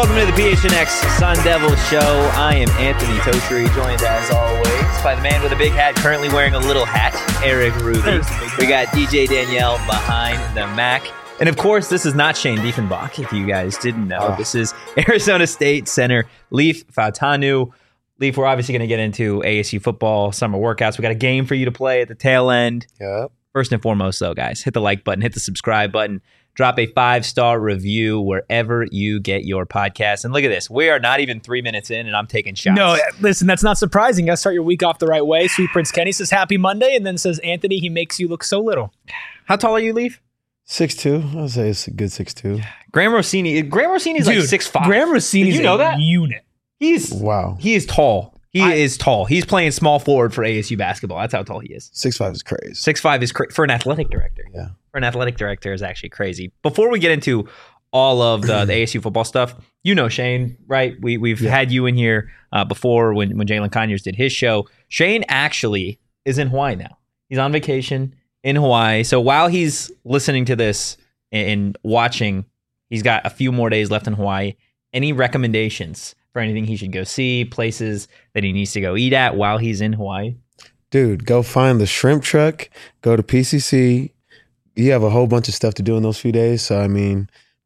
welcome to the PHNX Sun Devil Show. I am Anthony Totri, joined as always by the man with a big hat, currently wearing a little hat, Eric Ruby. We got DJ Danielle behind the Mac. And of course, this is not Shane Diefenbach, if you guys didn't know. This is Arizona State center Leif Fautanu. Leif, we're obviously going to get into ASU football, summer workouts. We got a game for you to play at the tail end. Yep. First and foremost, though, guys, hit the like button, hit the subscribe button, drop a 5-star review wherever you get your podcast. And look at this. We are not even 3 minutes in, and I'm taking shots. No, listen, that's not surprising. You got to start your week off the right way. Sweet Prince Kenny says, happy Monday, and then says, Anthony, he makes you look so little. How tall are you, Leif? 6'2". I would say it's a good 6'2". Graham Rossini is like 6'5". Graham Rossini is a unit. He is tall. He is tall. He's playing small forward for ASU basketball. That's how tall he is. 6'5" is crazy. 6'5" is for an athletic director. Yeah. For an athletic director is actually crazy. Before we get into all of the ASU football stuff, you know Shane, right? We've had you in here before when Jalen Conyers did his show. Shane actually is in Hawaii now. He's on vacation in Hawaii. So while he's listening to this and watching, he's got a few more days left in Hawaii. Any recommendations for anything he should go see, places that he needs to go eat at while he's in Hawaii? Dude, go find the shrimp truck, go to PCC. You have a whole bunch of stuff to do in those few days. So, I mean,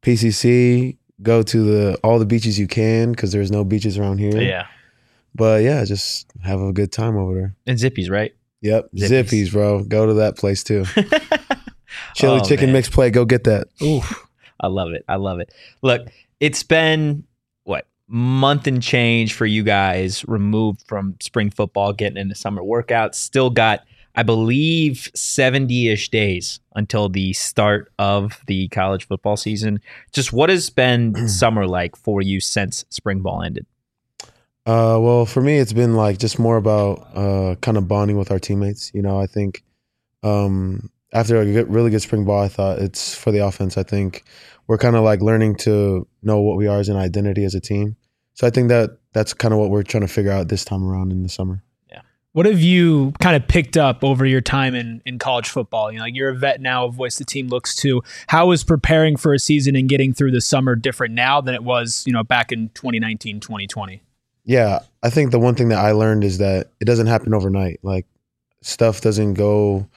PCC, go to all the beaches you can because there's no beaches around here. Yeah. But, yeah, just have a good time over there. And Zippy's, right? Yep. Zippy's, bro. Go to that place, too. Chili chicken mix plate. Go get that. Ooh, I love it. I love it. Look, it's been, month and change for you guys removed from spring football, getting into summer workouts. Still got, I believe, 70-ish days until the start of the college football season. Just what has been summer like for you since spring ball ended? Well, for me, it's been like just more about kind of bonding with our teammates. You know, I think after a really good spring ball, I thought it's for the offense. I think we're kind of like learning to know what we are as an identity as a team. So I think that's kind of what we're trying to figure out this time around in the summer. Yeah. What have you kind of picked up over your time in college football? You know, you're a vet now, a voice the team looks to. How is preparing for a season and getting through the summer different now than it was, back in 2019, 2020? Yeah, I think the one thing that I learned is that it doesn't happen overnight. Like stuff doesn't go,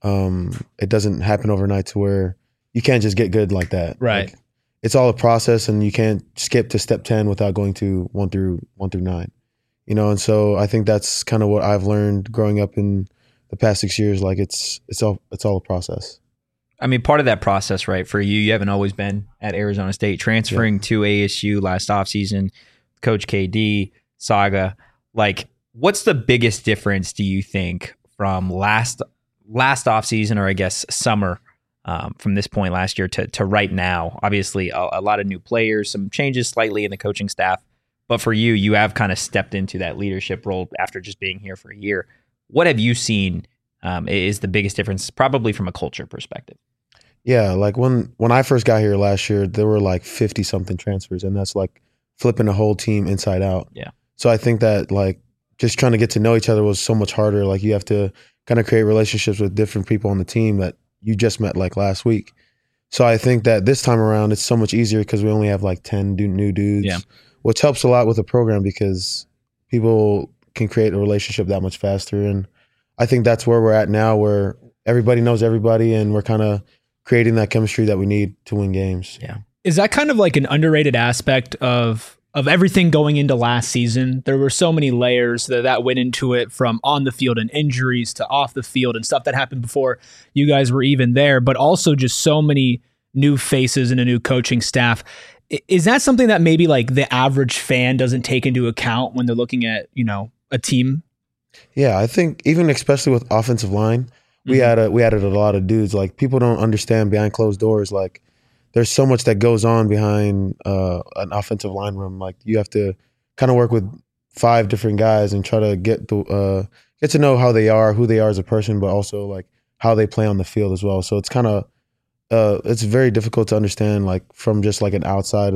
it doesn't happen overnight to where you can't just get good like that. Right. Like, it's all a process, and you can't skip to step 10 without going to 1 through 9. And so I think that's kind of what I've learned growing up in the past 6 years. Like it's all a process. I mean, part of that process, right? For you haven't always been at Arizona State, transferring to ASU last offseason, Coach KD saga. Like, what's the biggest difference, do you think, from last offseason, or I guess summer? From this point last year to right now? Obviously, a lot of new players, some changes slightly in the coaching staff. But for you have kind of stepped into that leadership role after just being here for a year. What have you seen is the biggest difference, probably from a culture perspective? Yeah, like when I first got here last year, there were like 50-something transfers, and that's like flipping the whole team inside out. Yeah. So I think that like just trying to get to know each other was so much harder. Like you have to kind of create relationships with different people on the team that you just met like last week. So I think that this time around it's so much easier because we only have like 10 new dudes, which helps a lot with the program because people can create a relationship that much faster. And I think that's where we're at now, where everybody knows everybody and we're kind of creating that chemistry that we need to win games. Yeah. Is that kind of like an underrated aspect of everything going into last season? There were so many layers that went into it, from on the field and injuries to off the field and stuff that happened before you guys were even there, but also just so many new faces and a new coaching staff. Is that something that maybe like the average fan doesn't take into account when they're looking at, a team? Yeah, I think even especially with offensive line, we added a lot of dudes. Like people don't understand behind closed doors, like there's so much that goes on behind an offensive line room. Like you have to kind of work with 5 different guys and try to get to know how they are, who they are as a person, but also like how they play on the field as well. So it's kind of it's very difficult to understand like from just like an outside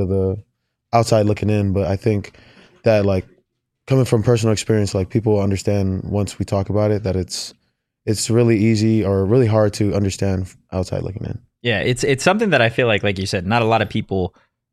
looking in. But I think that like coming from personal experience, like people understand once we talk about it that it's really easy or really hard to understand outside looking in. Yeah, it's something that I feel like you said, not a lot of people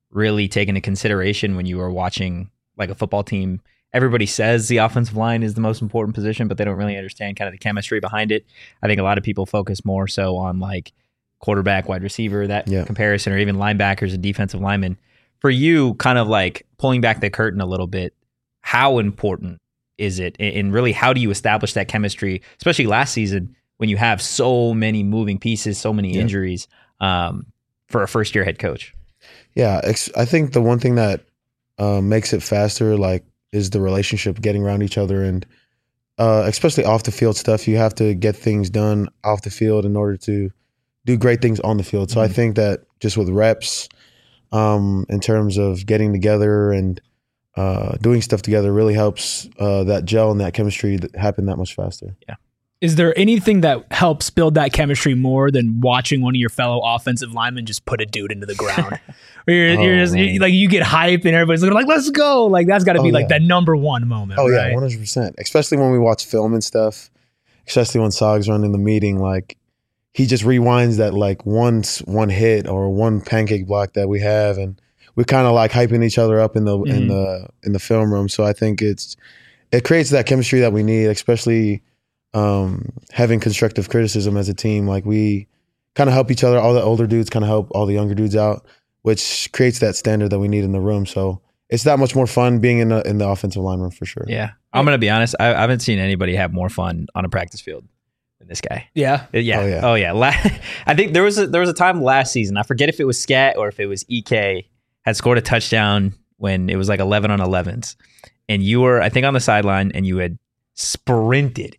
really take into consideration when you are watching like a football team? Everybody says the offensive line is the most important position, but they don't really understand kind of the chemistry behind it. I think a lot of people focus more so on like quarterback, wide receiver, that comparison, or even linebackers and defensive linemen. For you, kind of like pulling back the curtain a little bit, how important is it? And really, how do you establish that chemistry, especially last season when you have so many moving pieces, so many injuries for a first-year head coach? Yeah, I think the one thing that makes it faster, like, is the relationship, getting around each other, and especially off the field stuff. You have to get things done off the field in order to do great things on the field. So I think that just with reps, in terms of getting together and doing stuff together, really helps that gel and that chemistry happen that much faster. Yeah. Is there anything that helps build that chemistry more than watching one of your fellow offensive linemen just put a dude into the ground? Where you're like, you get hype and everybody's looking like, let's go. Like, that's got to be like that number one moment. Oh, right? Yeah, 100%. Especially when we watch film and stuff, especially when Sog's running the meeting, like, he just rewinds that like one hit or one pancake block that we have, and we're kind of like hyping each other up in the film room. So I think it creates that chemistry that we need, especially having constructive criticism as a team. Like, we kind of help each other. All the older dudes kind of help all the younger dudes out, which creates that standard that we need in the room. So it's that much more fun being in the offensive line room for sure. Yeah, I'm gonna be honest. I haven't seen anybody have more fun on a practice field than this guy. Yeah. Oh yeah. I think there was a time last season. I forget if it was Scat or if it was EK had scored a touchdown when it was like 11 on 11s, and you were, I think, on the sideline, and you had sprinted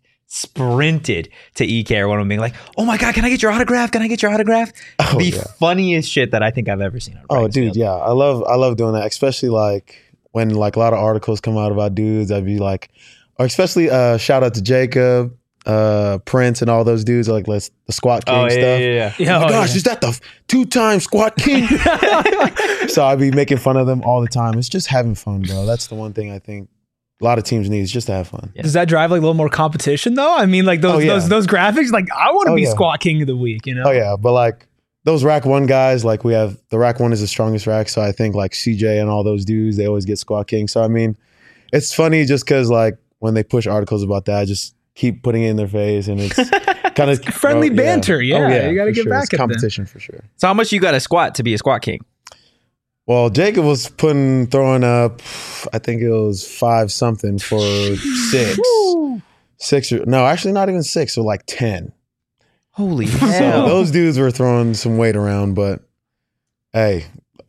to EK or one of them being like, oh my God, can I get your autograph? Funniest shit that I think I've ever seen. Oh, dude, yeah. I love doing that, especially like when like a lot of articles come out about dudes. I'd be like, or especially shout out to Jacob, Prince, and all those dudes, like the Squat King stuff. Yeah. Oh my gosh, is that the 2-time Squat King? So I'd be making fun of them all the time. It's just having fun, bro. That's the one thing I think a lot of teams need, is just to have fun. Yeah. Does that drive like a little more competition though? I mean, like those graphics, like I want to be Squat King of the week, you know? Oh yeah, but like those rack one guys, like we have, the rack one is the strongest rack. So I think like CJ and all those dudes, they always get Squat King. So I mean, it's funny just because like when they push articles about that, I just keep putting it in their face, and it's kind of friendly banter. Yeah. You got to get back at competition for sure. So how much you got to squat to be a Squat King? Well, Jacob was throwing up, I think it was 5 something for 6. 6 or no, actually not even 6, so like 10. Holy hell. So those dudes were throwing some weight around, but hey,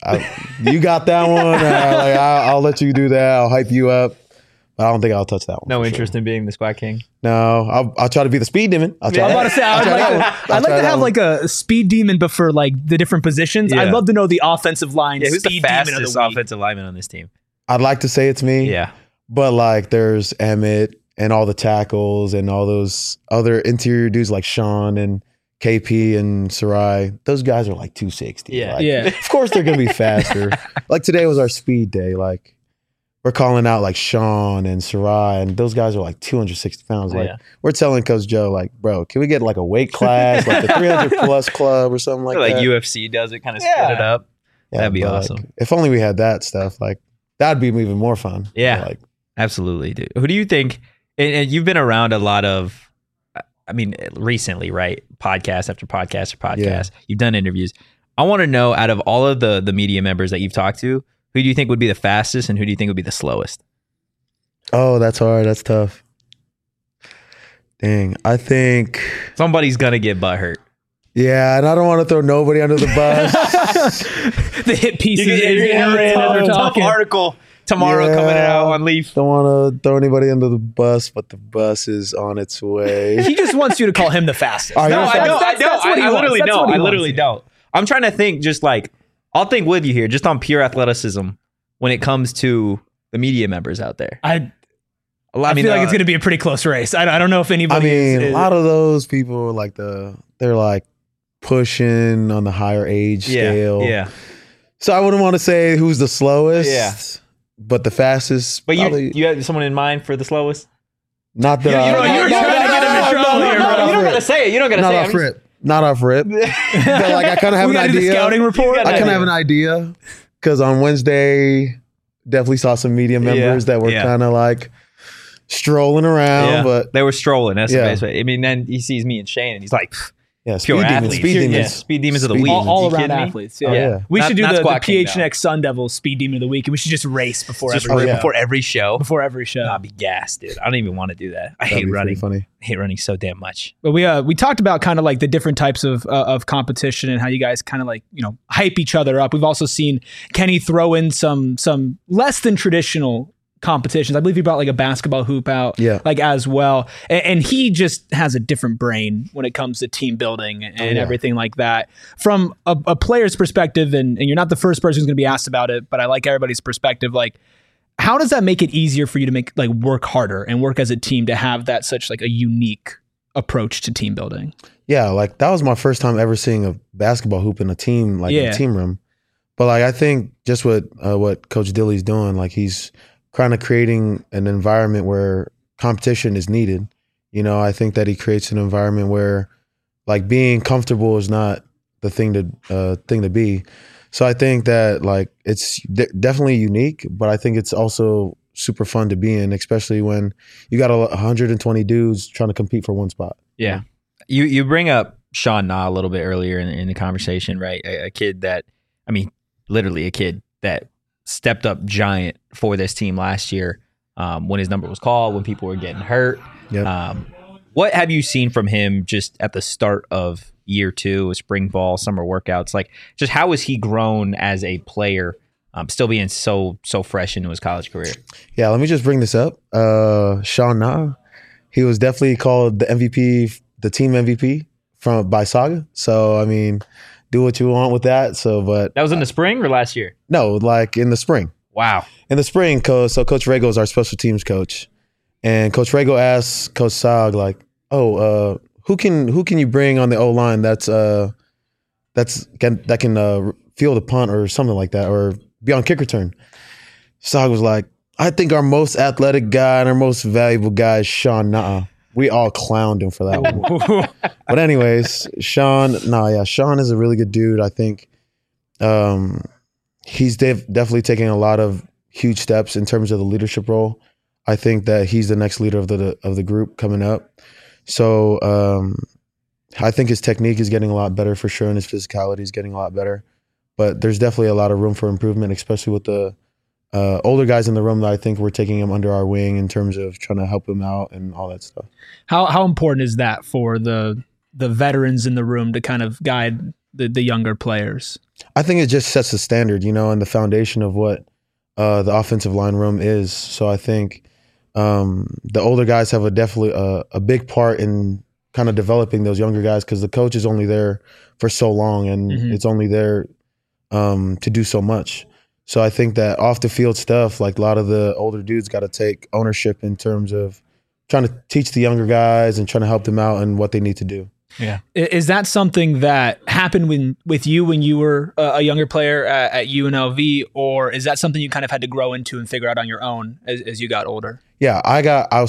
you got that one. I'll let you do that. I'll hype you up. I don't think I'll touch that one. No interest in being the Squat King? No, I'll try to be the speed demon. I'm about to say, I'd like to have like a speed demon, but for like the different positions. Yeah. I'd love to know the offensive line. Yeah, who's speed the fastest demon of the offensive lineman on this team? I'd like to say it's me. Yeah. But like there's Emmett and all the tackles and all those other interior dudes like Sean and KP and Sarai. Those guys are like 260. Yeah. Like, of course they're going to be faster. Like today was our speed day. Like, we're calling out like Sean and Sarai, and those guys are like 260 pounds. Like we're telling Coach Joe, like, bro, can we get like a weight class, like the 300 plus club or something like that? Like UFC does it, kind of split it up. Yeah, that'd be awesome. Like, if only we had that stuff, like that'd be even more fun. Yeah, like absolutely, dude. Who do you think? And you've been around a lot of, I mean, recently, right? Podcast after podcast or podcast. Yeah. You've done interviews. I want to know, out of all of the media members that you've talked to, who do you think would be the fastest and who do you think would be the slowest? Oh, that's hard. That's tough. Dang. I think somebody's going to get butthurt. Yeah, and I don't want to throw nobody under the bus. The hit pieces. Tough article tomorrow coming out on Leaf. Don't want to throw anybody under the bus, but the bus is on its way. He just wants you to call him the fastest. I literally don't. I'm trying to think, just like, I'll think with you here, just on pure athleticism when it comes to the media members out there. I feel like it's going to be a pretty close race. I don't know if anybody a lot of those people, like they're like pushing on the higher age scale. Yeah. So I wouldn't want to say who's the slowest. Yeah. But the fastest. But you have someone in mind for the slowest? Not that you're trying to get him in trouble here, bro. You don't got to say it. You don't got to say it. Not off rip. But like I kind of have an idea. Scouting report. I kind of have an idea. because on Wednesday, definitely saw some media members that were kind of like strolling around, but they were strolling. That's the best way. I mean, then he sees me and Shane, and he's like, speed demons, speed demons of the week. All around athletes. Yeah. We should do the PHNX Sun Devils Speed Demon of the Week, and we should just race before every show. Before every show. I'd be gassed, dude. I don't even want to do that. I hate running. Funny. I hate running so damn much. But we talked about kind of like the different types of competition and how you guys kind of like, hype each other up. We've also seen Kenny throw in some less than traditional competitions. I believe he brought like a basketball hoop out like as well. And he just has a different brain when it comes to team building and everything like that. From a player's perspective, and you're not the first person who's going to be asked about it, but I like everybody's perspective. Like, how does that make it easier for you to make like work harder and work as a team to have that such like a unique approach to team building? Yeah, like that was my first time ever seeing a basketball hoop in a team, like in a team room. But like I think just what Coach Dilly's doing, like he's kind of creating an environment where competition is needed. I think that he creates an environment where like being comfortable is not the thing to be. So I think that like it's definitely unique, but I think it's also super fun to be in, especially when you got 120 dudes trying to compete for one spot. Yeah. You bring up Sean Na a little bit earlier in the conversation, right? A kid that, I mean, literally a kid that stepped up giant for this team last year when his number was called, when people were getting hurt. Yep. What have you seen from him just at the start of year 2, spring ball, summer workouts? Like, just how has he grown as a player, still being so fresh into his college career? Yeah, let me just bring this up. Sean Na, he was definitely called the MVP, the team MVP by Saga. So, I mean, do what you want with that. So, but that was in the spring or last year? No, like in the spring. Wow. In the spring, so Coach Rego is our special teams coach, and Coach Rego asked Coach Sag like, who can you bring on the O line that can field a punt or something like that, or be on kick return? Sag was like, I think our most athletic guy and our most valuable guy is Sean Na. We all clowned him for that one. But anyways, Sean is a really good dude. I think he's definitely taking a lot of huge steps in terms of the leadership role. I think that he's the next leader of the group coming up. So I think his technique is getting a lot better for sure, and his physicality is getting a lot better. But there's definitely a lot of room for improvement, especially with the older guys in the room that I think we're taking him under our wing in terms of trying to help him out and all that stuff. How important is that for the veterans in the room to kind of guide the younger players? I think it just sets the standard, and the foundation of what the offensive line room is. So I think the older guys have definitely a big part in kind of developing those younger guys, because the coach is only there for so long, and it's only there to do so much. So I think that off the field stuff, like a lot of the older dudes got to take ownership in terms of trying to teach the younger guys and trying to help them out and what they need to do. Yeah. Is that something that happened with you when you were a younger player at UNLV, or is that something you kind of had to grow into and figure out on your own as you got older? Yeah, I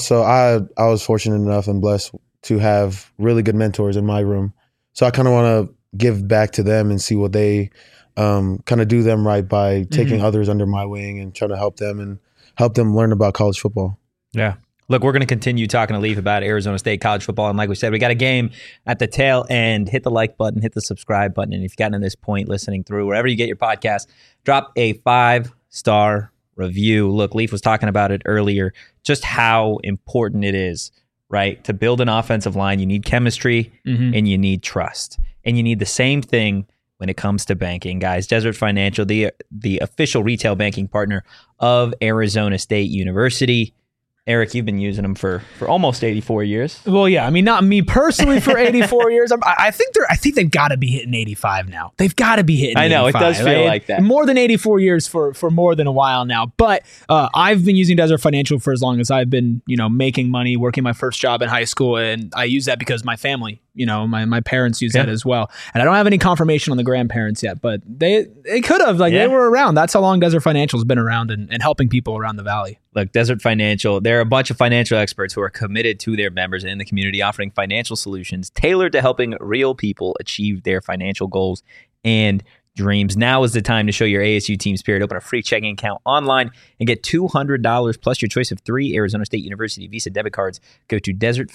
was fortunate enough and blessed to have really good mentors in my room. So I kind of want to give back to them and see what they kind of do them right by taking others under my wing and trying to help them learn about college football. Yeah. Look, we're going to continue talking to Leaf about Arizona State college football. And like we said, we got a game at the tail end. Hit the like button, hit the subscribe button. And if you've gotten to this point listening through, wherever you get your podcast, drop a 5-star review. Look, Leaf was talking about it earlier, just how important it is, right? To build an offensive line, you need chemistry and you need trust. And you need the same thing when it comes to banking, guys. Desert Financial, the official retail banking partner of Arizona State University. Eric, you've been using them for almost 84 years. Well, yeah. I mean, not me personally for 84 years. I think they've got to be hitting 85 now. They've got to be hitting 85. I know, it does feel like that. More than 84 years for more than a while now. But I've been using Desert Financial for as long as I've been, making money, working my first job in high school. And I use that because my family, my parents use that as well. And I don't have any confirmation on the grandparents yet, but they could have. They were around. That's how long Desert Financial's been around and helping people around the valley. Look, Desert Financial, they're a bunch of financial experts who are committed to their members in the community, offering financial solutions tailored to helping real people achieve their financial goals and dreams. Now is the time to show your ASU team spirit. Open a free checking account online and get $200 plus your choice of 3 Arizona State University Visa debit cards. Go to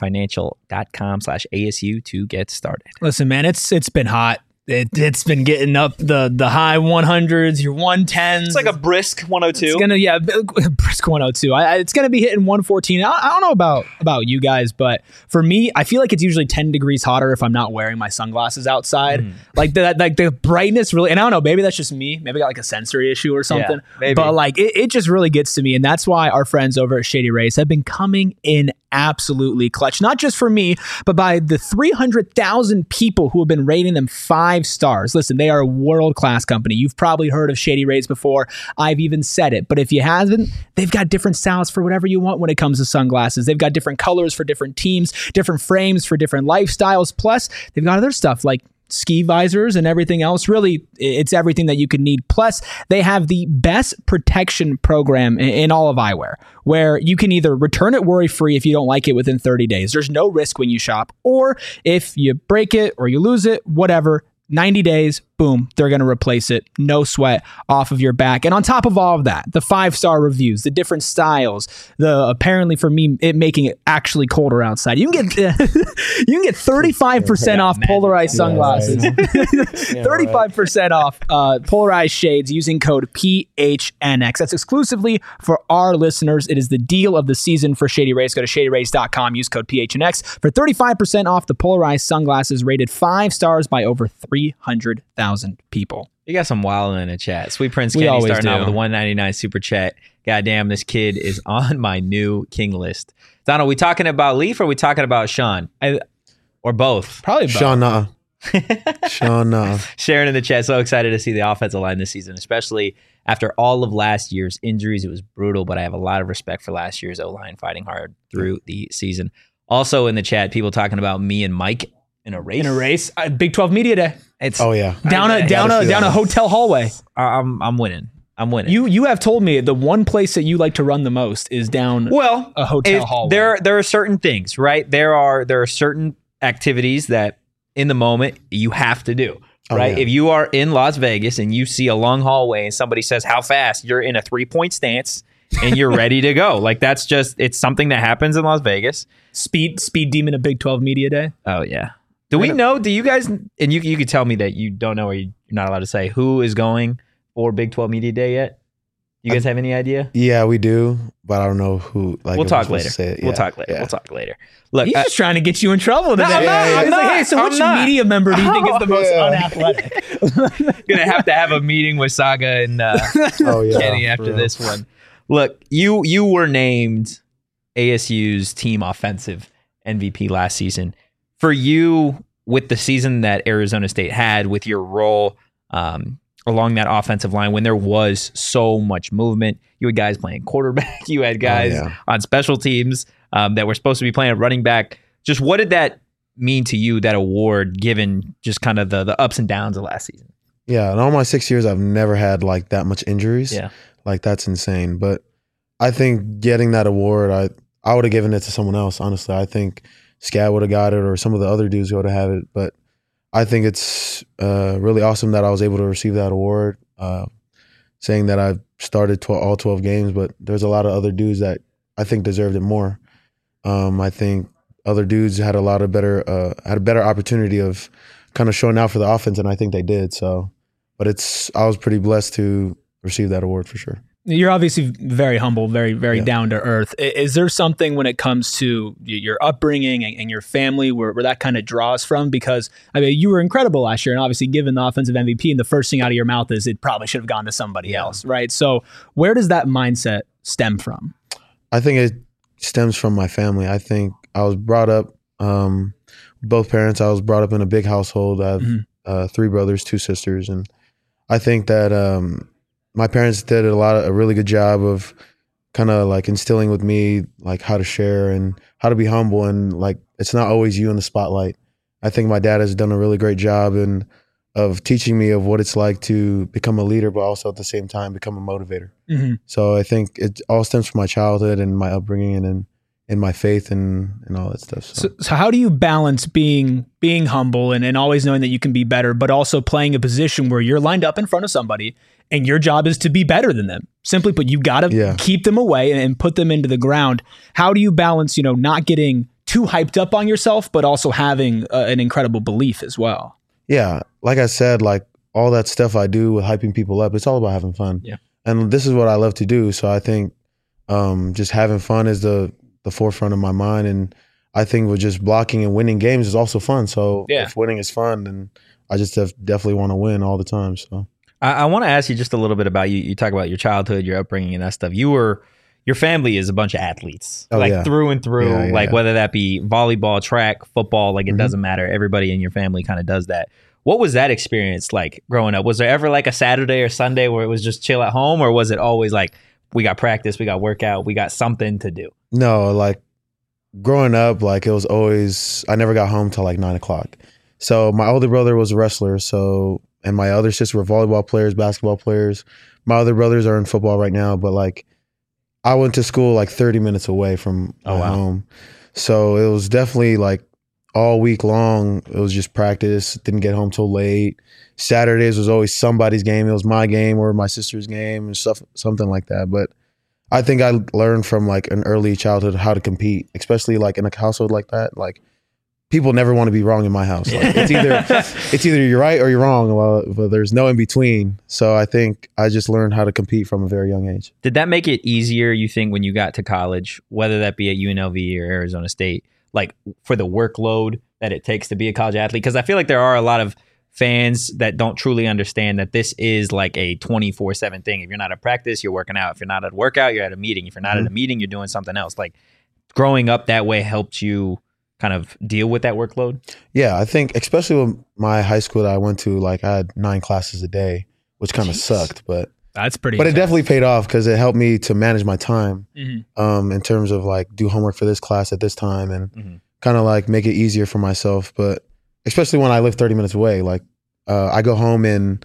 desertfinancial.com/ASU to get started. Listen, man, it's been hot. It's been getting up the high 100s, your 110s. It's like a brisk 102. It's gonna brisk 102. It's gonna be hitting 114. I don't know about you guys, but for me, I feel like it's usually 10 degrees hotter if I'm not wearing my sunglasses outside. Like the brightness really, and I don't know, maybe that's just me. Maybe I got like a sensory issue or something. Yeah, maybe. But like it just really gets to me, and that's why our friends over at Shady Rays have been coming in absolutely clutch, not just for me, but by the 300,000 people who have been rating them 5 stars. Listen, they are a world-class company. You've probably heard of Shady Rays before. I've even said it, but if you haven't, they've got different styles for whatever you want when it comes to sunglasses. They've got different colors for different teams, different frames for different lifestyles. Plus, they've got other stuff like ski visors and everything else. Really, it's everything that you could need. Plus, they have the best protection program in all of eyewear, where you can either return it worry-free if you don't like it within 30 days. There's no risk when you shop. Or if you break it or you lose it, whatever, 90 days, boom, they're going to replace it. No sweat off of your back. And on top of all of that, the 5-star reviews, the different styles, the apparently for me, it making it actually colder outside. You can get 35% off polarized sunglasses. 35% off polarized shades using code PHNX. That's exclusively for our listeners. It is the deal of the season for Shady Rays. Go to shadyrays.com. Use code PHNX for 35% off the polarized sunglasses rated 5 stars by over 300,000 people. You got some wild in the chat. Sweet Prince Kenny starting out with a $1.99 super chat. Goddamn, this kid is on my new king list. Donald, we talking about Leaf or we talking about Sean? Or both? Probably both. Sean, Sean, Sharon in the chat, so excited to see the offensive line this season, especially after all of last year's injuries. It was brutal, but I have a lot of respect for last year's O-line fighting hard through the season. Also in the chat, people talking about me and Mike in a race. Big 12 Media Day. yeah. Down a hotel hallway. I'm winning. You have told me the one place that you like to run the most is down a hotel hallway. There are certain things, right? There are certain activities that in the moment you have to do, right? Yeah. If you are in Las Vegas and you see a long hallway and somebody says how fast, you're in a 3-point stance and you're ready to go. Like that's just, it's something that happens in Las Vegas. Speed demon at Big 12 Media Day. Oh yeah. Do you guys, and you could tell me that you don't know or you're not allowed to say who is going for Big 12 Media Day yet? You guys have any idea? Yeah, we do, but I don't know who. Like, we'll talk later. Yeah, We'll talk later. yeah. We'll talk later. Look, He's just trying to get you in trouble today. I'm not. Hey, so which media member do you think is the most unathletic? Gonna have a meeting with Saga and Kenny after this one. Look, you were named ASU's team offensive MVP last season. For you, with the season that Arizona State had, with your role along that offensive line, when there was so much movement, you had guys playing quarterback, you had guys on special teams that were supposed to be playing at running back. Just what did that mean to you, that award, given just kind of the ups and downs of last season? Yeah, in all my 6 years, I've never had like that much injuries. Yeah. Like that's insane. But I think getting that award, I would have given it to someone else, honestly. I think Scad would have got it or some of the other dudes would have had it. But I think it's really awesome that I was able to receive that award, saying that I've started all 12 games, but there's a lot of other dudes that I think deserved it more. I think other dudes had a better opportunity of kind of showing out for the offense, and I think they did. So, but I was pretty blessed to receive that award for sure. You're obviously very humble, very, very down to earth. Is there something when it comes to your upbringing and your family where that kind of draws from? Because I mean, you were incredible last year, and obviously given the offensive MVP, and the first thing out of your mouth is it probably should have gone to somebody else, right? So where does that mindset stem from? I think it stems from my family. I think I was brought up, both parents, I was brought up in a big household. I have 3 brothers, 2 sisters, and I think that my parents did a really good job of kind of like instilling with me like how to share and how to be humble, and like it's not always you in the spotlight. I think my dad has done a really great job of teaching me of what it's like to become a leader, but also at the same time become a motivator. So I think it all stems from my childhood and my upbringing, and then in my faith and all that stuff. So how do you balance being humble and always knowing that you can be better, but also playing a position where you're lined up in front of somebody and your job is to be better than them? Simply put, you got to keep them away and put them into the ground. How do you balance, not getting too hyped up on yourself, but also having an incredible belief as well? Yeah. Like I said, like all that stuff I do with hyping people up, it's all about having fun. Yeah. And this is what I love to do. So I think just having fun is the forefront of my mind. And I think with just blocking and winning games is also fun. So if winning is fun, then I just definitely want to win all the time. So I want to ask you just a little bit about you. You talk about your childhood, your upbringing and that stuff. Your family is a bunch of athletes, through and through, whether that be volleyball, track, football, like it doesn't matter. Everybody in your family kind of does that. What was that experience like growing up? Was there ever like a Saturday or Sunday where it was just chill at home, or was it always like, we got practice, we got workout, we got something to do? No, like growing up, like it was always, I never got home till like 9:00. So my older brother was a wrestler. And my other sister were volleyball players, basketball players. My other brothers are in football right now, but like I went to school like 30 minutes away from my home. So it was definitely like all week long. It was just practice. Didn't get home till late. Saturdays was always somebody's game. It was my game or my sister's game and stuff, something like that. But I think I learned from like an early childhood how to compete, especially like in a household like that. Like people never want to be wrong in my house. Like it's either you're right or you're wrong. But there's no in between. So I think I just learned how to compete from a very young age. Did that make it easier, you think, when you got to college, whether that be at UNLV or Arizona State, like for the workload that it takes to be a college athlete? Because I feel like there are a lot of fans that don't truly understand that this is like a 24/7 thing. If you're not at practice, you're working out. If you're not at a workout, you're at a meeting. If you're not at a meeting, you're doing something else. Like growing up that way helped you kind of deal with that workload? Yeah, I think especially with my high school that I went to, like I had 9 classes a day, which kind of sucked, but that's pretty. But intense. It definitely paid off because it helped me to manage my time in terms of like do homework for this class at this time and kind of like make it easier for myself. But especially when I live 30 minutes away, like I go home in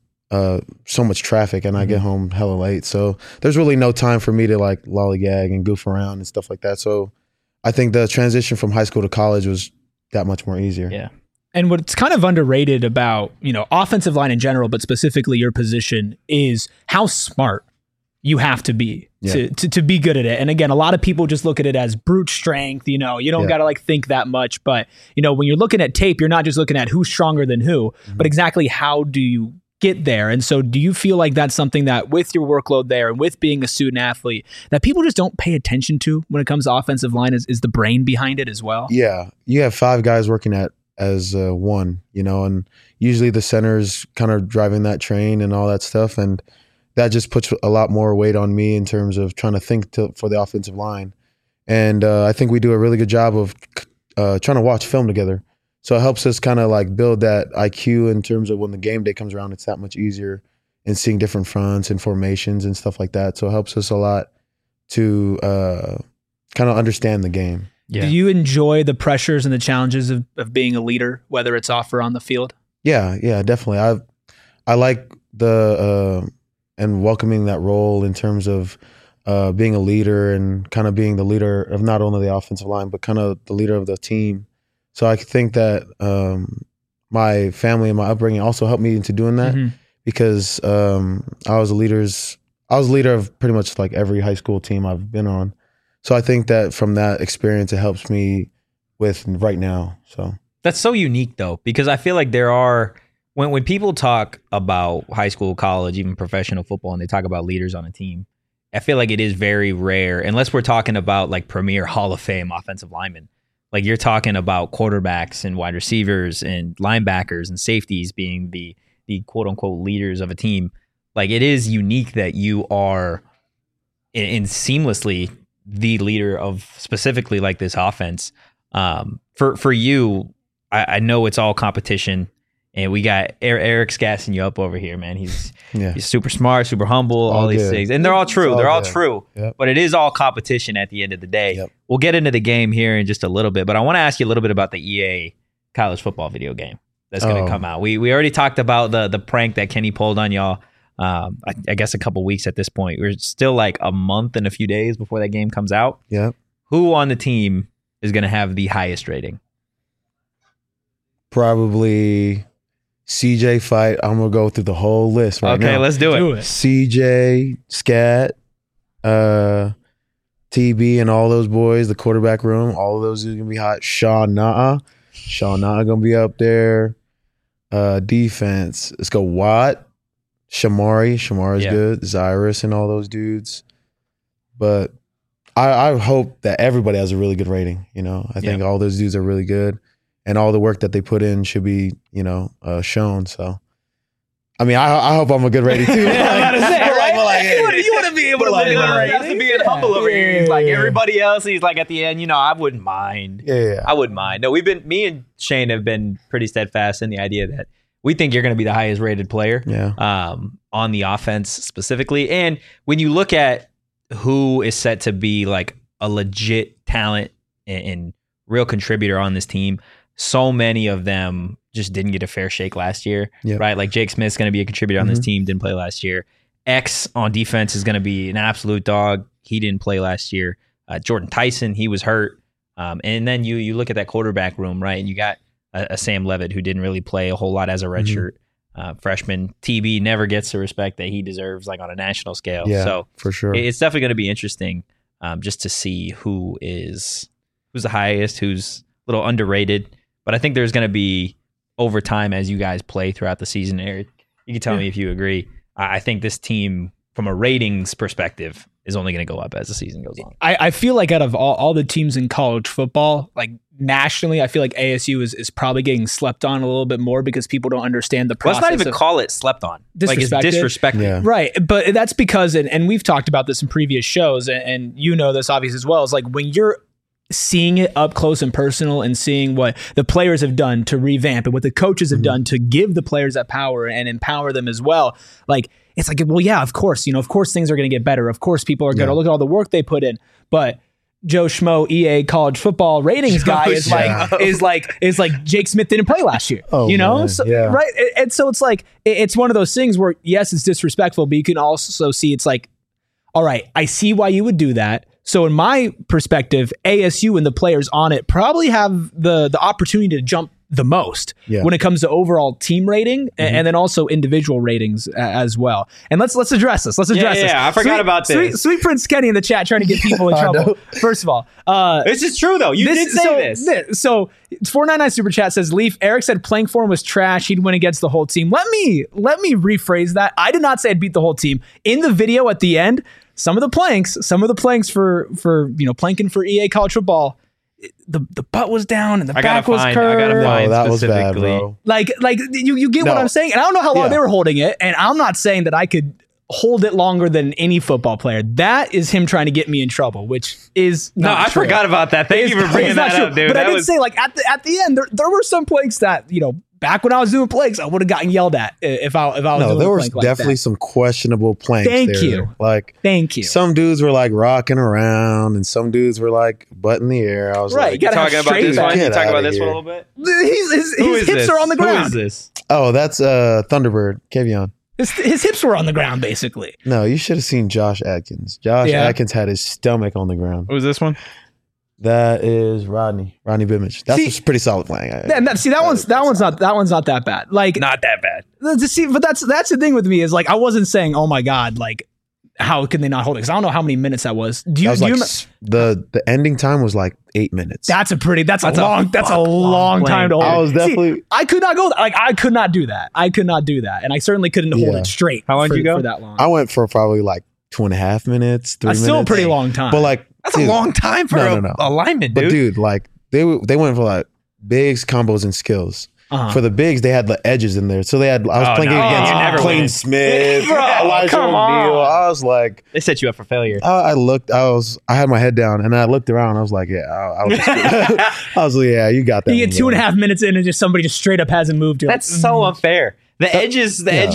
so much traffic and I get home hella late. So there's really no time for me to like lollygag and goof around and stuff like that. So I think the transition from high school to college was that much more easier. Yeah. And what's kind of underrated about, offensive line in general, but specifically your position, is how smart you have to be to be good at it. And again, a lot of people just look at it as brute strength. You don't got to like think that much. But, when you're looking at tape, you're not just looking at who's stronger than who, but exactly how do you get there. And so do you feel like that's something that with your workload there and with being a student athlete that people just don't pay attention to when it comes to offensive line is the brain behind it as well? Yeah. You have 5 guys working as one, and usually the center's kind of driving that train and all that stuff. And that just puts a lot more weight on me in terms of trying to think for the offensive line. And I think we do a really good job of trying to watch film together. So it helps us kind of like build that IQ in terms of when the game day comes around, it's that much easier in seeing different fronts and formations and stuff like that. So it helps us a lot to kind of understand the game. Yeah. Do you enjoy the pressures and the challenges of being a leader, whether it's off or on the field? Yeah, definitely. I like the and welcoming that role in terms of being a leader and kind of being the leader of not only the offensive line, but kind of the leader of the team. So I think that my family and my upbringing also helped me into doing that because I was a leader of pretty much like every high school team I've been on. So I think that from that experience, it helps me with right now. So that's so unique though, because I feel like there are, when people talk about high school, college, even professional football, and they talk about leaders on a team, I feel like it is very rare, unless we're talking about like premier Hall of Fame offensive linemen. Like you're talking about quarterbacks and wide receivers and linebackers and safeties being the quote unquote leaders of a team. Like it is unique that you are in seamlessly the leader of specifically like this offense. For you, I know it's all competition. And we got Eric's gassing you up over here, man. He's super smart, super humble, all these things. And they're all true. They're all true. Yep. But it is all competition at the end of the day. Yep. We'll get into the game here in just a little bit. But I want to ask you a little bit about the EA college football video game that's going to come out. We already talked about the prank that Kenny pulled on y'all, I guess a couple weeks at this point. We're still like a month and a few days before that game comes out. Yeah. who on the team is going to have the highest rating? Probably CJ fight. I'm gonna go through the whole list right now. Okay, let's do it. CJ, Scat, TB, and all those boys. The quarterback room. All of those are gonna be hot. Shaw Naa gonna be up there. Defense. Let's go Watt, Shamari's good. Zyrus and all those dudes. But I hope that everybody has a really good rating. I think all those dudes are really good. And all the work that they put in should be, shown. So, I mean, I hope I'm a good rating too. You want to be able to look at He has to be humble over here. He's like everybody else. He's like at the end, I wouldn't mind. Yeah. I wouldn't mind. No, me and Shane have been pretty steadfast in the idea that we think you're going to be the highest rated player. On the offense specifically. And when you look at who is set to be like a legit talent and real contributor on this team, so many of them just didn't get a fair shake last year, right? Like Jake Smith's going to be a contributor on this team, didn't play last year. X on defense is going to be an absolute dog. He didn't play last year. Jordan Tyson, he was hurt. And then you look at that quarterback room, right? And you got a Sam Levitt who didn't really play a whole lot as a redshirt freshman. TB never gets the respect that he deserves, like on a national scale. Yeah, so for sure. It's definitely going to be interesting just to see who's the highest, who's a little underrated. But I think there's going to be, over time, as you guys play throughout the season, Eric, you can tell me if you agree. I think this team, from a ratings perspective, is only going to go up as the season goes on. I feel like out of all the teams in college football, like nationally, I feel like ASU is probably getting slept on a little bit more because people don't understand the process. Let's not even call it slept on. Like it's disrespected. Yeah. Right. But that's because, and we've talked about this in previous shows, and you know this obviously as well, is like when you're seeing it up close and personal and seeing what the players have done to revamp and what the coaches have done to give the players that power and empower them as well. Like, it's like, well, yeah, of course, of course things are going to get better. Of course people are going to look at all the work they put in. But Joe Schmo, EA college football ratings guy is like Jake Smith didn't play last year, Man. So, right. And so it's like, it's one of those things where, yes, it's disrespectful, but you can also see it's like, all right, I see why you would do that. So in my perspective, ASU and the players on it probably have the opportunity to jump the most when it comes to overall team rating and then also individual ratings as well. And let's address this. Let's address this. Yeah, I forgot about this. Sweet Prince Kenny in the chat trying to get people in trouble. First of all, this is true though. You did say this. So 499 Super Chat says, Leaf, Eric said playing for him was trash. He'd win against the whole team. Let me rephrase that. I did not say I'd beat the whole team. In the video at the end, some of the planks for planking for EA college football, the butt was down and the back was curved. I got to find that was bad, bro. Like you get what I'm saying? And I don't know how long they were holding it. And I'm not saying that I could hold it longer than any football player. That is him trying to get me in trouble, which is not true. I forgot about that. Thank you for bringing that up, dude. But I did say, like, at the end, there were some planks that, back when I was doing planks, I would have gotten yelled at if I was doing a plank. No, there was definitely some questionable planks. Thank you. Thank you. Some dudes were like rocking around, and some dudes were like butt in the air. I was like, you talking about this one? You talking about this one a little bit? His hips are on the ground. Who is this? Oh, that's Thunderbird, Kevion. His hips were on the ground, basically. No, you should have seen Josh Atkins. Atkins had his stomach on the ground. Who's this one? That is Rodney Bimmich. That's a pretty solid playing. That one's not that bad. Like, not that bad. But that's the thing with me is, like, I wasn't saying, oh my God, like, how can they not hold it? Because I don't know how many minutes that was. The ending time was like 8 minutes. That's a long time to hold. I was definitely. I could not go. Like, I could not do that. And I certainly couldn't hold it straight. How long did you go for that long? I went for probably like 2.5 minutes. 3 minutes. Still a pretty long time. But like, that's a long time for a lineman, dude. But dude, like they went for like bigs, combos, and skills. For the bigs, they had the edges in there. So I was playing against Clayton Smith, Elijah O'Neal. I was like, they set you up for failure. I had my head down and I looked around. I was like, I was like, yeah, you got that. You get 2.5 minutes in and somebody just straight up hasn't moved. That's so unfair. The edges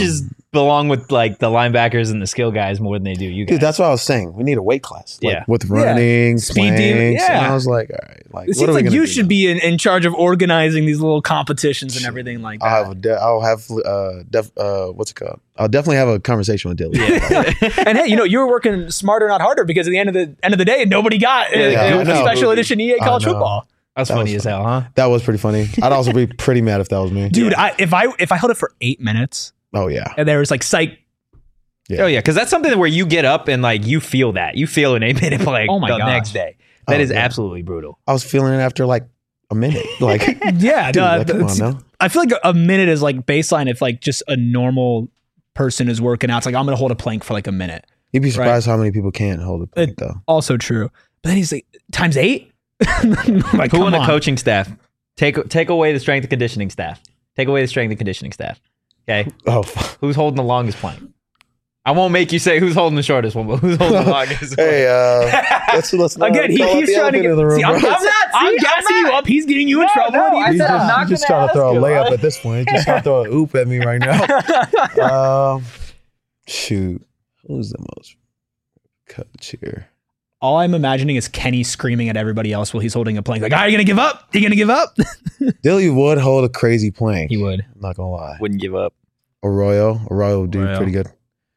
belong with like the linebackers and the skill guys more than they do you guys. Dude, that's what I was saying. We need a weight class. Like, Yeah. with running, Speed planks. demon, yeah. And I was like, all right. Like, It what are seems we like gonna you do should now? be in charge of organizing these little competitions and everything like that. I'll have what's it called? I'll definitely have a conversation with Dilly. And hey, you were working smarter, not harder, because at the end of the day, nobody got Yeah, I a know. special edition EA college know. football. That's That funny was as hell, huh? That was pretty funny. I'd also be pretty mad if that was me. Dude, if I held it for 8 minutes Oh yeah. and there was like psych. Yeah. Oh yeah, because that's something where you get up and like you feel that. You feel an 8 minute play Oh my the gosh. next day. That Oh, is yeah. absolutely brutal. I was feeling it after like a minute. Like, Yeah, dude, no, like, come on it's- now. I feel like a minute is like baseline if like just a normal person is working out. It's like I'm gonna hold a plank for like a minute. You'd be surprised how many people can't hold a plank though. Also true. But then he's like times 8? Like, Who come on the on. coaching staff? Take away the strength and conditioning staff. Take away the strength and conditioning staff. Okay, Oh, fuck. who's holding the longest plank? I won't make you say who's holding the shortest one, but who's holding the longest one? Hey, let's not Again, call out he's the trying to elephant get. in the room, See, I'm bro. gassing you up. He's getting you in trouble. no, What do you I think? said I'm not He's just gonna trying to throw a ask you. layup at this point. He's just trying to throw an oop at me right now. Shoot, who's the most coach here? All I'm imagining is Kenny screaming at everybody else while he's holding a plank. Like, are you gonna give up? You gonna give up? Dilly would hold a crazy plank. He would. I'm not gonna lie. Wouldn't give up. Arroyo would do Arroyo. pretty good.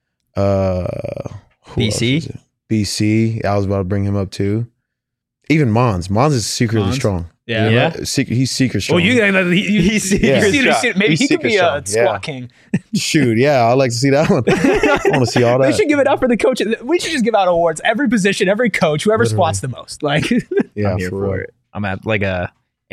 Who BC? else is it? BC. I was about to bring him up too. Even Mons. Mons is secretly Mons? strong. Yeah. He's secret strong. Well, he's Yeah. maybe he He's could be secret a strong, squat yeah. king. Shoot, yeah, I'd like to see that one. I want to see all that. We should give it up for the coach. We should just give out awards. Every position, every coach, whoever Literally. squats the most. Like, yeah, I'm here for real. it. I'm at like a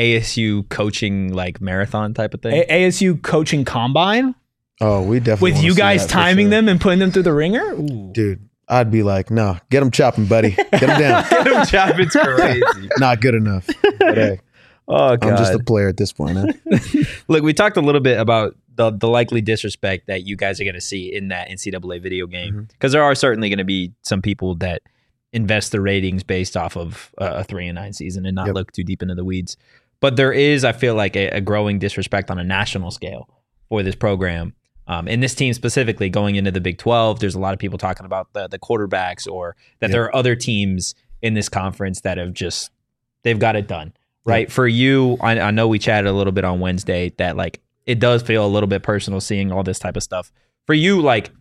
ASU coaching like marathon type of thing. ASU coaching combine Oh, we definitely with wanna you see guys that for timing sure. them and putting them through the ringer. Ooh. Dude, I'd be like, no, get him chopping, buddy. Get him down. It's crazy. Not good enough. But hey, Oh god. I'm just a player at this point. Huh? Look, we talked a little bit about the likely disrespect that you guys are going to see in that NCAA video game, because there are certainly going to be some people that invest their ratings based off of a 3-9 season and not Yep. look too deep into the weeds. But there is, I feel like, a growing disrespect on a national scale for this program. And this team specifically going into the Big 12, there's a lot of people talking about the quarterbacks, or that there are other teams in this conference that have just, they've got it done. Right. For you, I know we chatted a little bit on Wednesday that like it does feel a little bit personal seeing all this type of stuff. For you, like,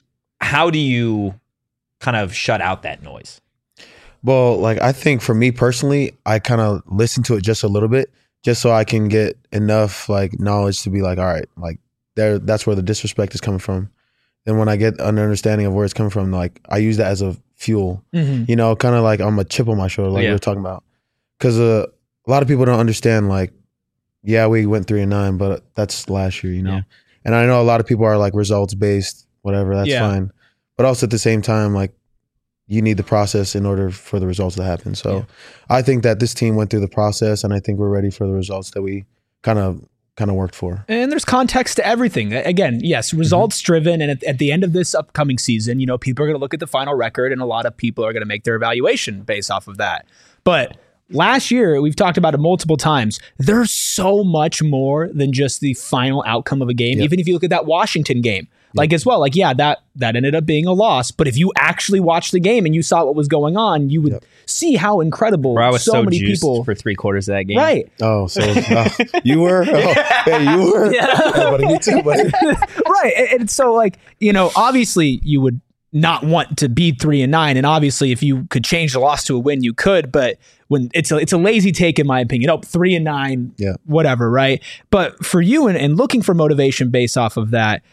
how do you kind of shut out that noise? Well, like, I think for me personally, I kind of listen to it just a little bit, just so I can get enough like knowledge to be like, all right, like that's where the disrespect is coming from. Then when I get an understanding of where it's coming from, like I use that as a fuel, you know, kind of like I'm a chip on my shoulder, like we were talking about. Because a lot of people don't understand, like, yeah, we went 3-9, but that's last year, you know? Yeah. And I know a lot of people are like results based, whatever, that's fine. But also at the same time, like, you need the process in order for the results to happen. So I think that this team went through the process, and I think we're ready for the results that we kind of worked for. And there's context to everything. Again, yes, results driven. And at the end of this upcoming season, you know, people are going to look at the final record, and a lot of people are going to make their evaluation based off of that. But last year, we've talked about it multiple times. There's so much more than just the final outcome of a game. Even if you look at that Washington game, like as well, like, yeah, that ended up being a loss. But if you actually watched the game and you saw what was going on, you would see how incredible Bro, I was so many juiced people for 3/4 of that game. Right. Oh, so you were? Oh, hey, you were? Yeah. Buddy, me too, buddy. Right. And so, like, you know, obviously you would not want to be 3-9, and obviously if you could change the loss to a win, you could. But when it's a lazy take, in my opinion. 3-9, whatever, right? But for you, and looking for motivation based off of that,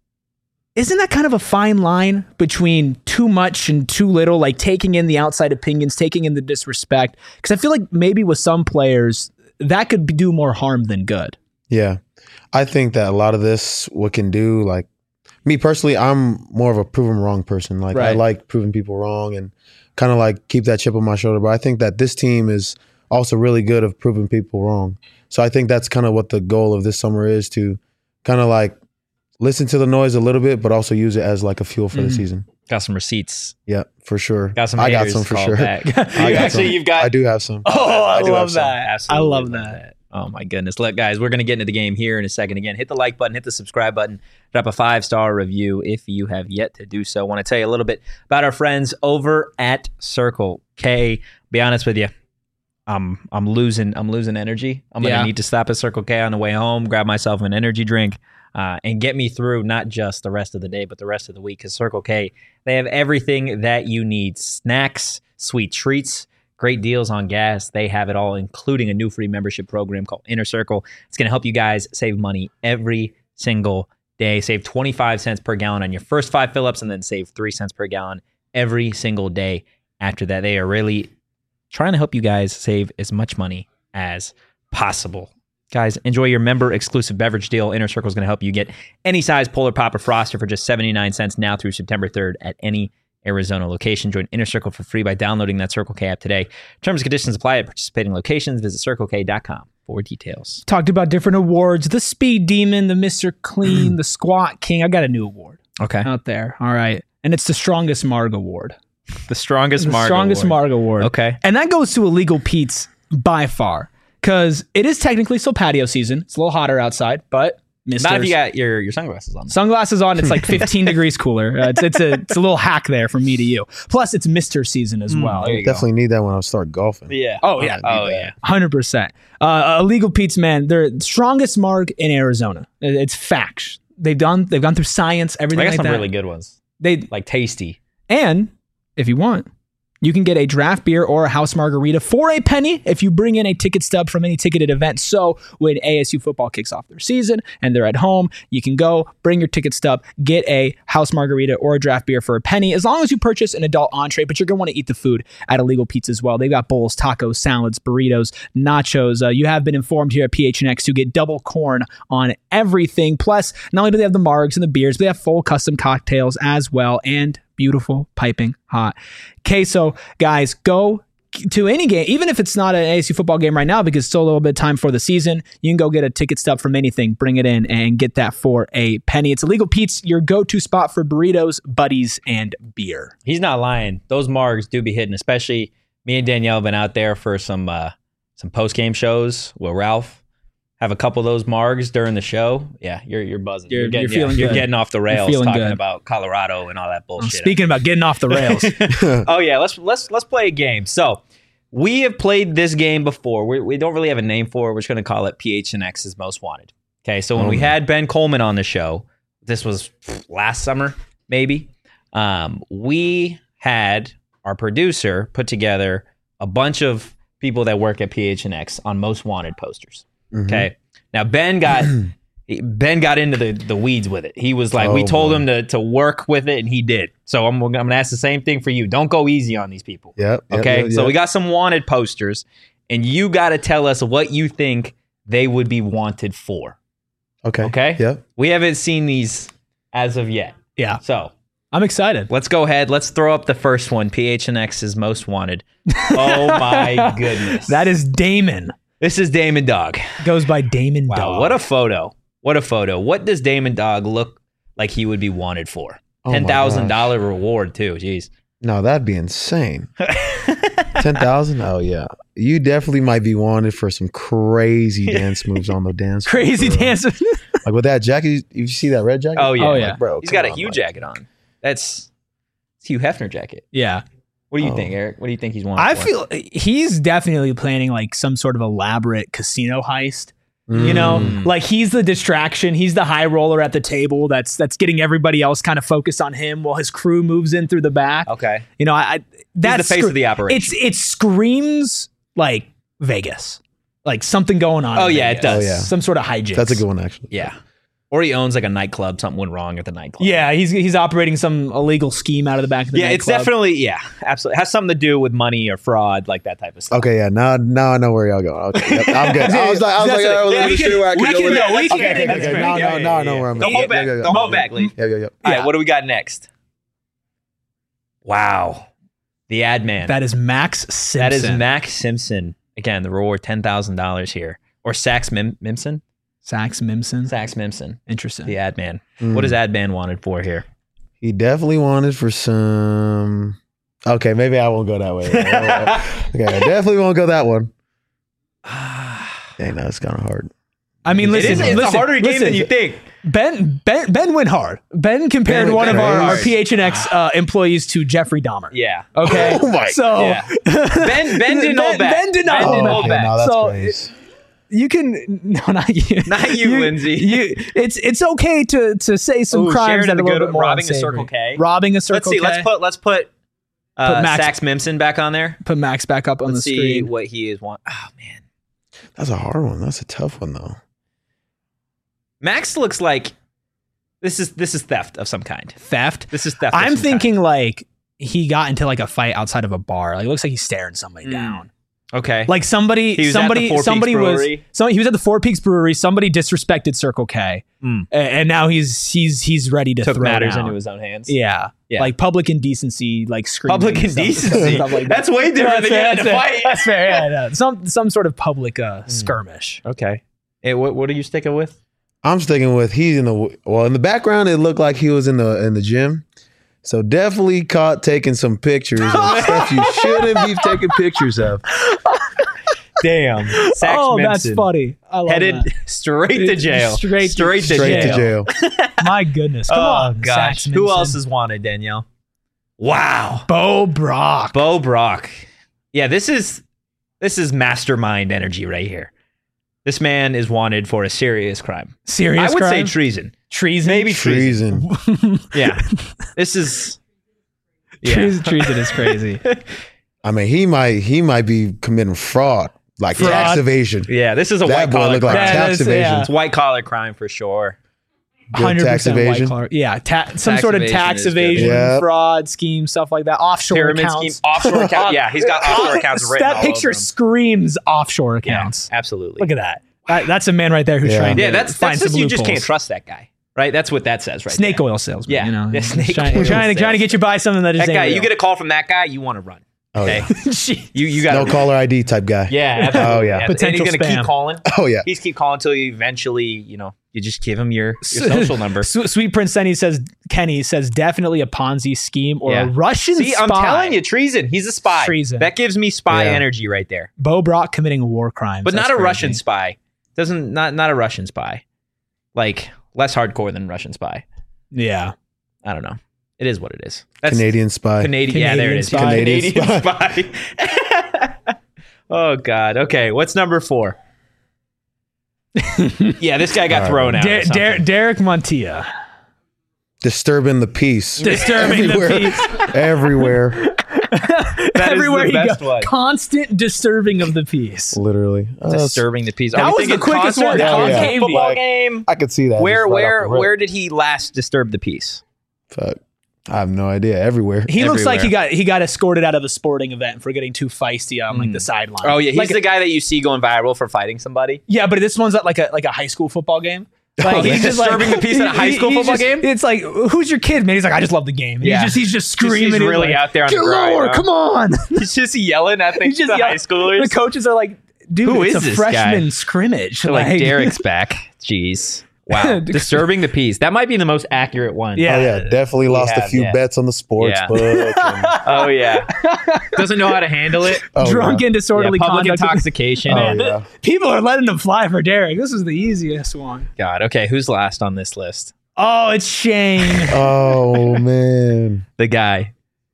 isn't that kind of a fine line between too much and too little, like taking in the outside opinions, taking in the disrespect? Because I feel like maybe with some players, that could do more harm than good. Yeah. I think that a lot of this, what can do, like, me personally, I'm more of a prove 'em wrong person. Like, I like proving people wrong and kind of like keep that chip on my shoulder. But I think that this team is also really good of proving people wrong. So I think that's kind of what the goal of this summer is, to kind of like listen to the noise a little bit, but also use it as like a fuel for the season. Got some receipts. Yeah, for sure. Got some. I got haters some for called sure. back. I got some. You've got. I do have some. Oh, I do love have some. that. Absolutely I love that. Oh my goodness. Look, guys, we're going to get into the game here in a second. Again, hit the like button, hit the subscribe button, drop a 5-star review if you have yet to do so. I want to tell you a little bit about our friends over at Circle K. Be honest with you, I'm losing energy. I'm going to need to stop at Circle K on the way home, grab myself an energy drink, and get me through not just the rest of the day, but the rest of the week. Because Circle K, they have everything that you need. Snacks, sweet treats, great deals on gas. They have it all, including a new free membership program called Inner Circle. It's going to help you guys save money every single day. Save 25 cents per gallon on your first 5 fill-ups, and then save 3 cents per gallon every single day after that. They are really trying to help you guys save as much money as possible. Guys, enjoy your member-exclusive beverage deal. Inner Circle is going to help you get any size Polar Pop or Froster for just 79 cents now through September 3rd at any Arizona location. Join Inner Circle for free by downloading that Circle K app today. Terms and conditions apply at participating locations. Visit CircleK.com for details. Talked about different awards. The Speed Demon, the Mr. Clean, the Squat King. I got a new award out there. All right. And it's the Strongest Marg Award. The Strongest Marg Award. Okay. And that goes to Illegal Pete's by far. Because it is technically still patio season. It's a little hotter outside, but not if you got your sunglasses on. Sunglasses on, it's like 15 degrees cooler. It's a little hack there from me to you. Plus, it's Mr. season as well. Definitely need that when I start golfing. Yeah. Oh, yeah. 100%. Illegal Pete's, man, they're the strongest marg in Arizona. It's facts. They've gone through science, everything like that. I got some really good ones. They like tasty. And if you want, you can get a draft beer or a house margarita for a penny if you bring in a ticket stub from any ticketed event. So when ASU football kicks off their season and they're at home, you can go, bring your ticket stub, get a house margarita or a draft beer for a penny, as long as you purchase an adult entree, but you're going to want to eat the food at Illegal Pete's as well. They've got bowls, tacos, salads, burritos, nachos. You have been informed here at PHNX to get double corn on everything. Plus, not only do they have the margs and the beers, but they have full custom cocktails as well, and beautiful, piping hot queso. Guys, go to any game, even if it's not an ASU football game right now, because it's still a little bit of time for the season. You can go get a ticket stub from anything, bring it in, and get that for a penny. It's Illegal Pete's, your go-to spot for burritos, buddies, and beer. He's not lying. Those margs do be hitting, especially me and Danielle have been out there for some post-game shows with Ralph. Have a couple of those margs during the show. Yeah, you're buzzing. You're getting off the rails talking about Colorado and all that bullshit. Speaking about getting off the rails. Oh yeah, let's play a game. So we have played this game before. We don't really have a name for it. We're just going to call it PHNX's Most Wanted. Okay, so when we had Ben Coleman on the show, this was last summer maybe. We had our producer put together a bunch of people that work at PHNX on Most Wanted posters. Okay. Now Ben got into the weeds with it. He was like, we told him to work with it, and he did. So I'm gonna ask the same thing for you. Don't go easy on these people. Yep. Okay. So we got some wanted posters, and you got to tell us what you think they would be wanted for. Okay. Okay. Yep. We haven't seen these as of yet. Yeah. So I'm excited. Let's go ahead. Let's throw up the first one. PHNX's Most Wanted. Oh my goodness. That is Damon. This is Damon Dog. Goes by Damon Dog. Wow, what a photo. What a photo. What does Damon Dog look like he would be wanted for? $10,000 reward too. Jeez. No, that'd be insane. 10,000? Oh yeah. You definitely might be wanted for some crazy dance moves on the dance floor. Crazy dance. Like with that jacket, you see that red jacket? Oh yeah. Like, bro. He's got a Hugh jacket on. It's Hugh Hefner jacket. Yeah. What do you think, Eric? What do you think he's wanted I for? feel he's definitely planning like some sort of elaborate casino heist. You know, like he's the distraction. He's the high roller at the table that's getting everybody else kind of focused on him while his crew moves in through the back. Okay. You know, that's the face of the operation. It screams like Vegas, like something going on. Oh in yeah, Vegas. it does. Oh, yeah. Some sort of hijinks. That's a good one, actually. Yeah. Or he owns like a nightclub. Something went wrong at the nightclub. Yeah, he's operating some illegal scheme out of the back of the nightclub. It's definitely, absolutely. It has something to do with money or fraud, like that type of stuff. Okay, yeah. Now I know where y'all going. Okay, yep, I'm good. I was like, Now I know where I'm Don't going. hold back. Don't hold back, Lee. Yep. All right, what do we got next? Wow. The ad man. That is Max Simpson. That is Max Simpson. Again, the reward $10,000 here. Or Sax Mimson? Sax Mimson. Sax Mimson. Interesting. The ad man. What is ad man wanted for here? He definitely wanted for some. Okay, maybe I won't go that way. Okay, I definitely won't go that one. Dang, that's kind of hard. I mean, listen, It's a harder game than you think. Ben went hard. Ben compared Ben one went of our hard. PHNX employees to Jeffrey Dahmer. Yeah. Okay. Oh my So Yeah. Ben didn't hold back. Ben did not Ben hold didn't back. hold back. No, that's So, crazy. you can not you, Not you, Lindsay. It's okay to say some Ooh, crimes Sharon that are a the little good- bit more robbing a unsavory. Circle K. Robbing a Let's Circle see. K. Let's put Max- Sax Mimson back on there. Put Max back up on Let's the see screen. what he is want. Oh man, That's a hard one. That's a tough one though. Max looks like this is theft of some kind. Theft. This is theft. of I'm some thinking like he got into like a fight outside of a bar. Like it looks like he's staring somebody down. kind. Okay. Like somebody He was at the Four Peaks Brewery. he was at the Four Peaks Brewery. Somebody disrespected Circle K, Mm. and now he's ready to Took throw matters down. into his own hands. Yeah. Yeah. Like public indecency, like screaming. Public and stuff- indecency. stuff like that. That's way different than getting in a fair. fight. That's fair. Yeah, no. Some sort of public skirmish. Okay. Hey, what are you sticking with? I'm sticking with he's in the background. It looked like he was in the gym. So definitely caught taking some pictures of stuff you shouldn't be taking pictures of. Damn. Sax Oh, Mimson. that's funny. I love Headed that. straight to jail. Straight to Jail. My goodness. Come on, gosh. Sax Who Mimson. else is wanted, Danielle? Wow. Bo Brock. Bo Brock. Yeah, this is mastermind energy right here. This man is wanted for a serious crime. Serious I would crime? say treason. Treason. Maybe treason. Treason. Yeah. This is Treason is crazy. I mean, he might be committing fraud, like Fraud. tax evasion. Yeah, this is a That white boy collar looked like crime. That tax is- evasion. yeah. It's white collar crime for sure. Good tax 100% white evasion. collar. Yeah, some Tax sort of evasion tax is good. evasion, Yep. fraud scheme, stuff like that. Offshore Pyramid accounts. scheme, offshore account. Yeah, he's got offshore accounts written That all picture over him. screams offshore Yeah, accounts. absolutely. Look at that. That's a man right there who's Yeah. trying to Yeah, that's find just some you just loopholes. can't trust that guy, right? That's what that says, right? Snake there. oil salesman. Yeah. You know, Yeah, snake trying, oil trying to get you buy something that is That guy, you get a call from that guy, you want to run. Oh, Okay, yeah. you got No caller ID type guy. Yeah, absolutely. Oh, yeah. And Potential he's gonna spam. keep calling. Oh yeah. He's keep calling until you eventually, you just give him your social number. Sweet Prince Kenny says definitely a Ponzi scheme or Yeah. a Russian See, spy. I'm telling you, treason. He's a spy. Treason. That gives me spy Yeah. energy right there. Bo Brock committing war crimes. But That's not a crazy. Russian spy. Not a Russian spy. Like less hardcore than Russian spy. Yeah. I don't know. It is what it is. That's Canadian spy. Canadian. Yeah, there it is. spy. Canadian spy. Oh God. Okay. What's number 4? Yeah, this guy got All thrown out. or something. Derek Montilla. Disturbing the peace. Disturbing the Everywhere. peace. Everywhere. That is Everywhere the you best go. one. Constant disturbing of the peace. Literally. Disturbing the peace. That Are we was the thinking quickest concert? one. Yeah, yeah. Game Football day. game. I could see that. Where just right off the rip. where did he last disturb the peace? Fuck. I have no idea. Everywhere. He looks like Everywhere. he got escorted out of a sporting event for getting too feisty on like the sideline. Oh yeah, he's Like- the guy that you see going viral for fighting somebody. Yeah, but this one's at like a high school football game. Like, he's just disturbing the peace at a high school he's football just- game? It's like, who's your kid, man? He's like, I just love the game. And Yeah. he's just screaming. He's really like, out there on get the grind, lower, huh? come on. He's just yelling at the, He's just the high yelling. schoolers. The coaches are like, dude, Who it's is a this freshman guy? scrimmage. They're like Derek's back. Jeez. Wow. Disturbing the peace. That might be the most accurate one. Yeah. Oh yeah, definitely lost a have, few yeah. bets on the sports Yeah. book. And, Oh yeah. Doesn't know how to handle it. oh, Drunk yeah. and disorderly Public conduct. intoxication. Oh yeah. People are letting him fly for Derek. This is the easiest one. God. Okay. Who's last on this list? Oh, it's Shane. Oh man. The guy.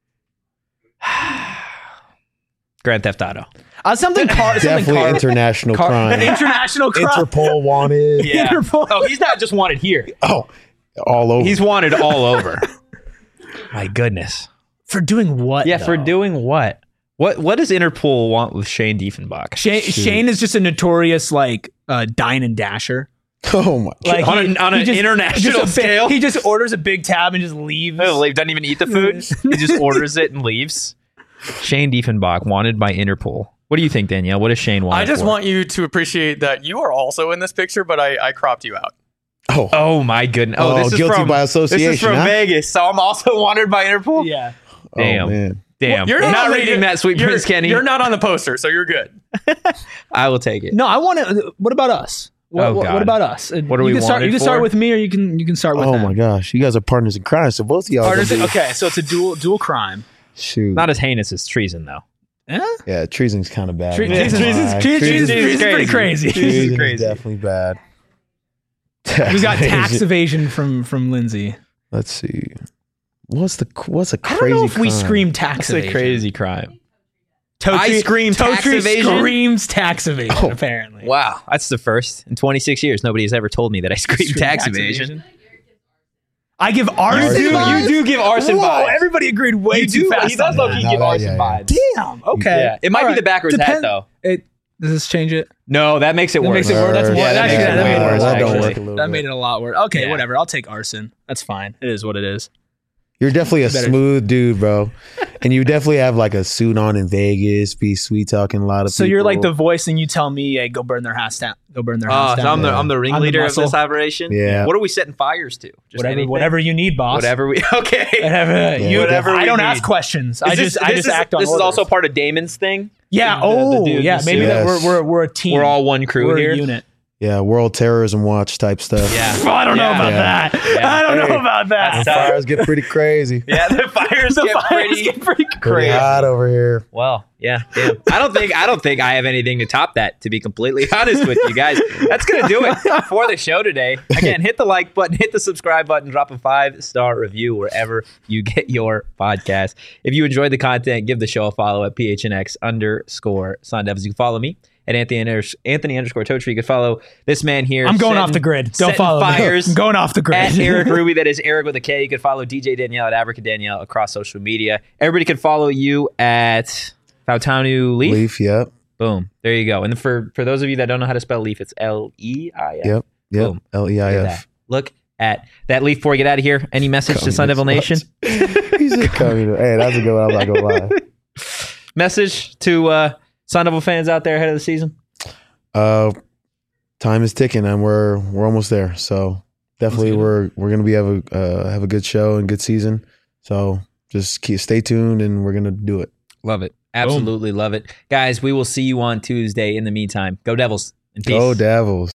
Grand Theft Auto. Something Definitely international crime. international crime. Interpol wanted. Yeah. Interpol. Oh, he's not just wanted here. Oh, all over. He's wanted all over. My goodness. For doing what? Yeah, for though? doing what? What does Interpol want with Shane Diefenbach? Shane is just a notorious like dine and dasher. oh my. Like On an just- international just a big- scale? he just orders a big tab and just leaves. Oh, he doesn't even eat the food. He just orders it and leaves. Shane Diefenbach wanted by Interpol. What do you think, Danielle? What does Shane want? I just want you to appreciate that you are also in this picture, but I cropped you out. Oh. Oh my goodness! Oh, Oh, this is guilty from by This is association, from huh? Vegas, so I'm also wanted by Interpol. Yeah. Damn. Oh, man. Damn, You're I'm not on the- reading that, Sweet you're- Prince Kenny. You're not on the poster, so you're good. I will take it. No, I want to. What about us? What, Oh, what God. about us? What are we you can start? wanted You can start for? with me, or you can start with Oh them. my gosh, you guys are partners in crime. So both of y'all. Partners- gonna be- okay, so it's a dual crime. Shoot. Not as heinous as treason, though. Yeah, treason's kind of bad. Treason's pretty crazy. Treason crazy. is definitely bad. We got tax evasion from Lindsay. Let's see. What's a crazy I don't know if we crime? scream tax That's a evasion. crazy crime. Totri, I scream tax Totri evasion? screams tax evasion, apparently. Wow, that's the first in 26 years. Nobody has ever told me that I scream tax evasion. I give arson You vibes? do give arson Whoa, vibes. everybody agreed way You too do. fast He does on low that. key No, give that- arson yeah, vibes. Damn. Okay. Yeah, it might All be right. the backwards hat though. Does this change it? No, that makes it That worse. makes it worse. That's more. Yeah, that actually, makes it that way made it worse, That don't actually. work a little That bit. made it a lot worse. Okay, Yeah. whatever. I'll take arson. That's fine. It is what it is. You're definitely a Better. smooth dude, bro. And you definitely have like a suit on in Vegas, be sweet talking a lot of So people. you're like the voice, and you tell me, "Hey, go burn their house down. Go burn their house Oh, so down." I'm the ringleader of this muscle. operation. Yeah. What are we setting fires to? Just Whatever you need, boss. Whatever we. Okay. Whatever you. Whatever I we don't need. ask questions. I Is just act on This is orders. also part of Damon's thing. Yeah. the dude, Yeah. the Maybe suit. that Yes. we're a team. We're all one crew We're here. a unit. yeah, World Terrorism Watch type stuff. Yeah. Well, I don't know Yeah. about Yeah. that. Yeah. I don't Hey. know about that. That's Fires get pretty crazy. Yeah, the fires The get fires pretty get pretty Pretty crazy. hot over here. Well, yeah, damn. I don't think I have anything to top that, to be completely honest with you guys. That's gonna do it for the show today. Again, hit the like button, hit the subscribe button, drop a 5-star review wherever you get your podcast. If you enjoyed the content, give the show a follow at PHNX_Sun Devils. You can follow me at Anthony_Totri. You can follow this man here. I'm going setting- off the grid. Don't setting follow me. fires I'm going off the grid. at Eric Ruby. That is Eric with a K. You can follow DJ Danielle at Abrica Danielle across social media. Everybody can follow you at Fautanu Leaf. Leaf, yep. Boom. There you go. And for those of you that don't know how to spell Leaf, it's Leif. Yep. Yep. Boom. Look at Leif. that. Look at that Leaf before we get out of here. Any message to Sun Devil Nation? He's just coming. Hey, that's a good one. I'm not gonna lie. Message to Sun Devil fans out there ahead of the season? Time is ticking, and we're almost there. So definitely, we're gonna have a good show and good season. So just stay tuned, and we're gonna do it. Love it. Absolutely love it. Guys, we will see you on Tuesday. In the meantime, go Devils and peace. Go Devils.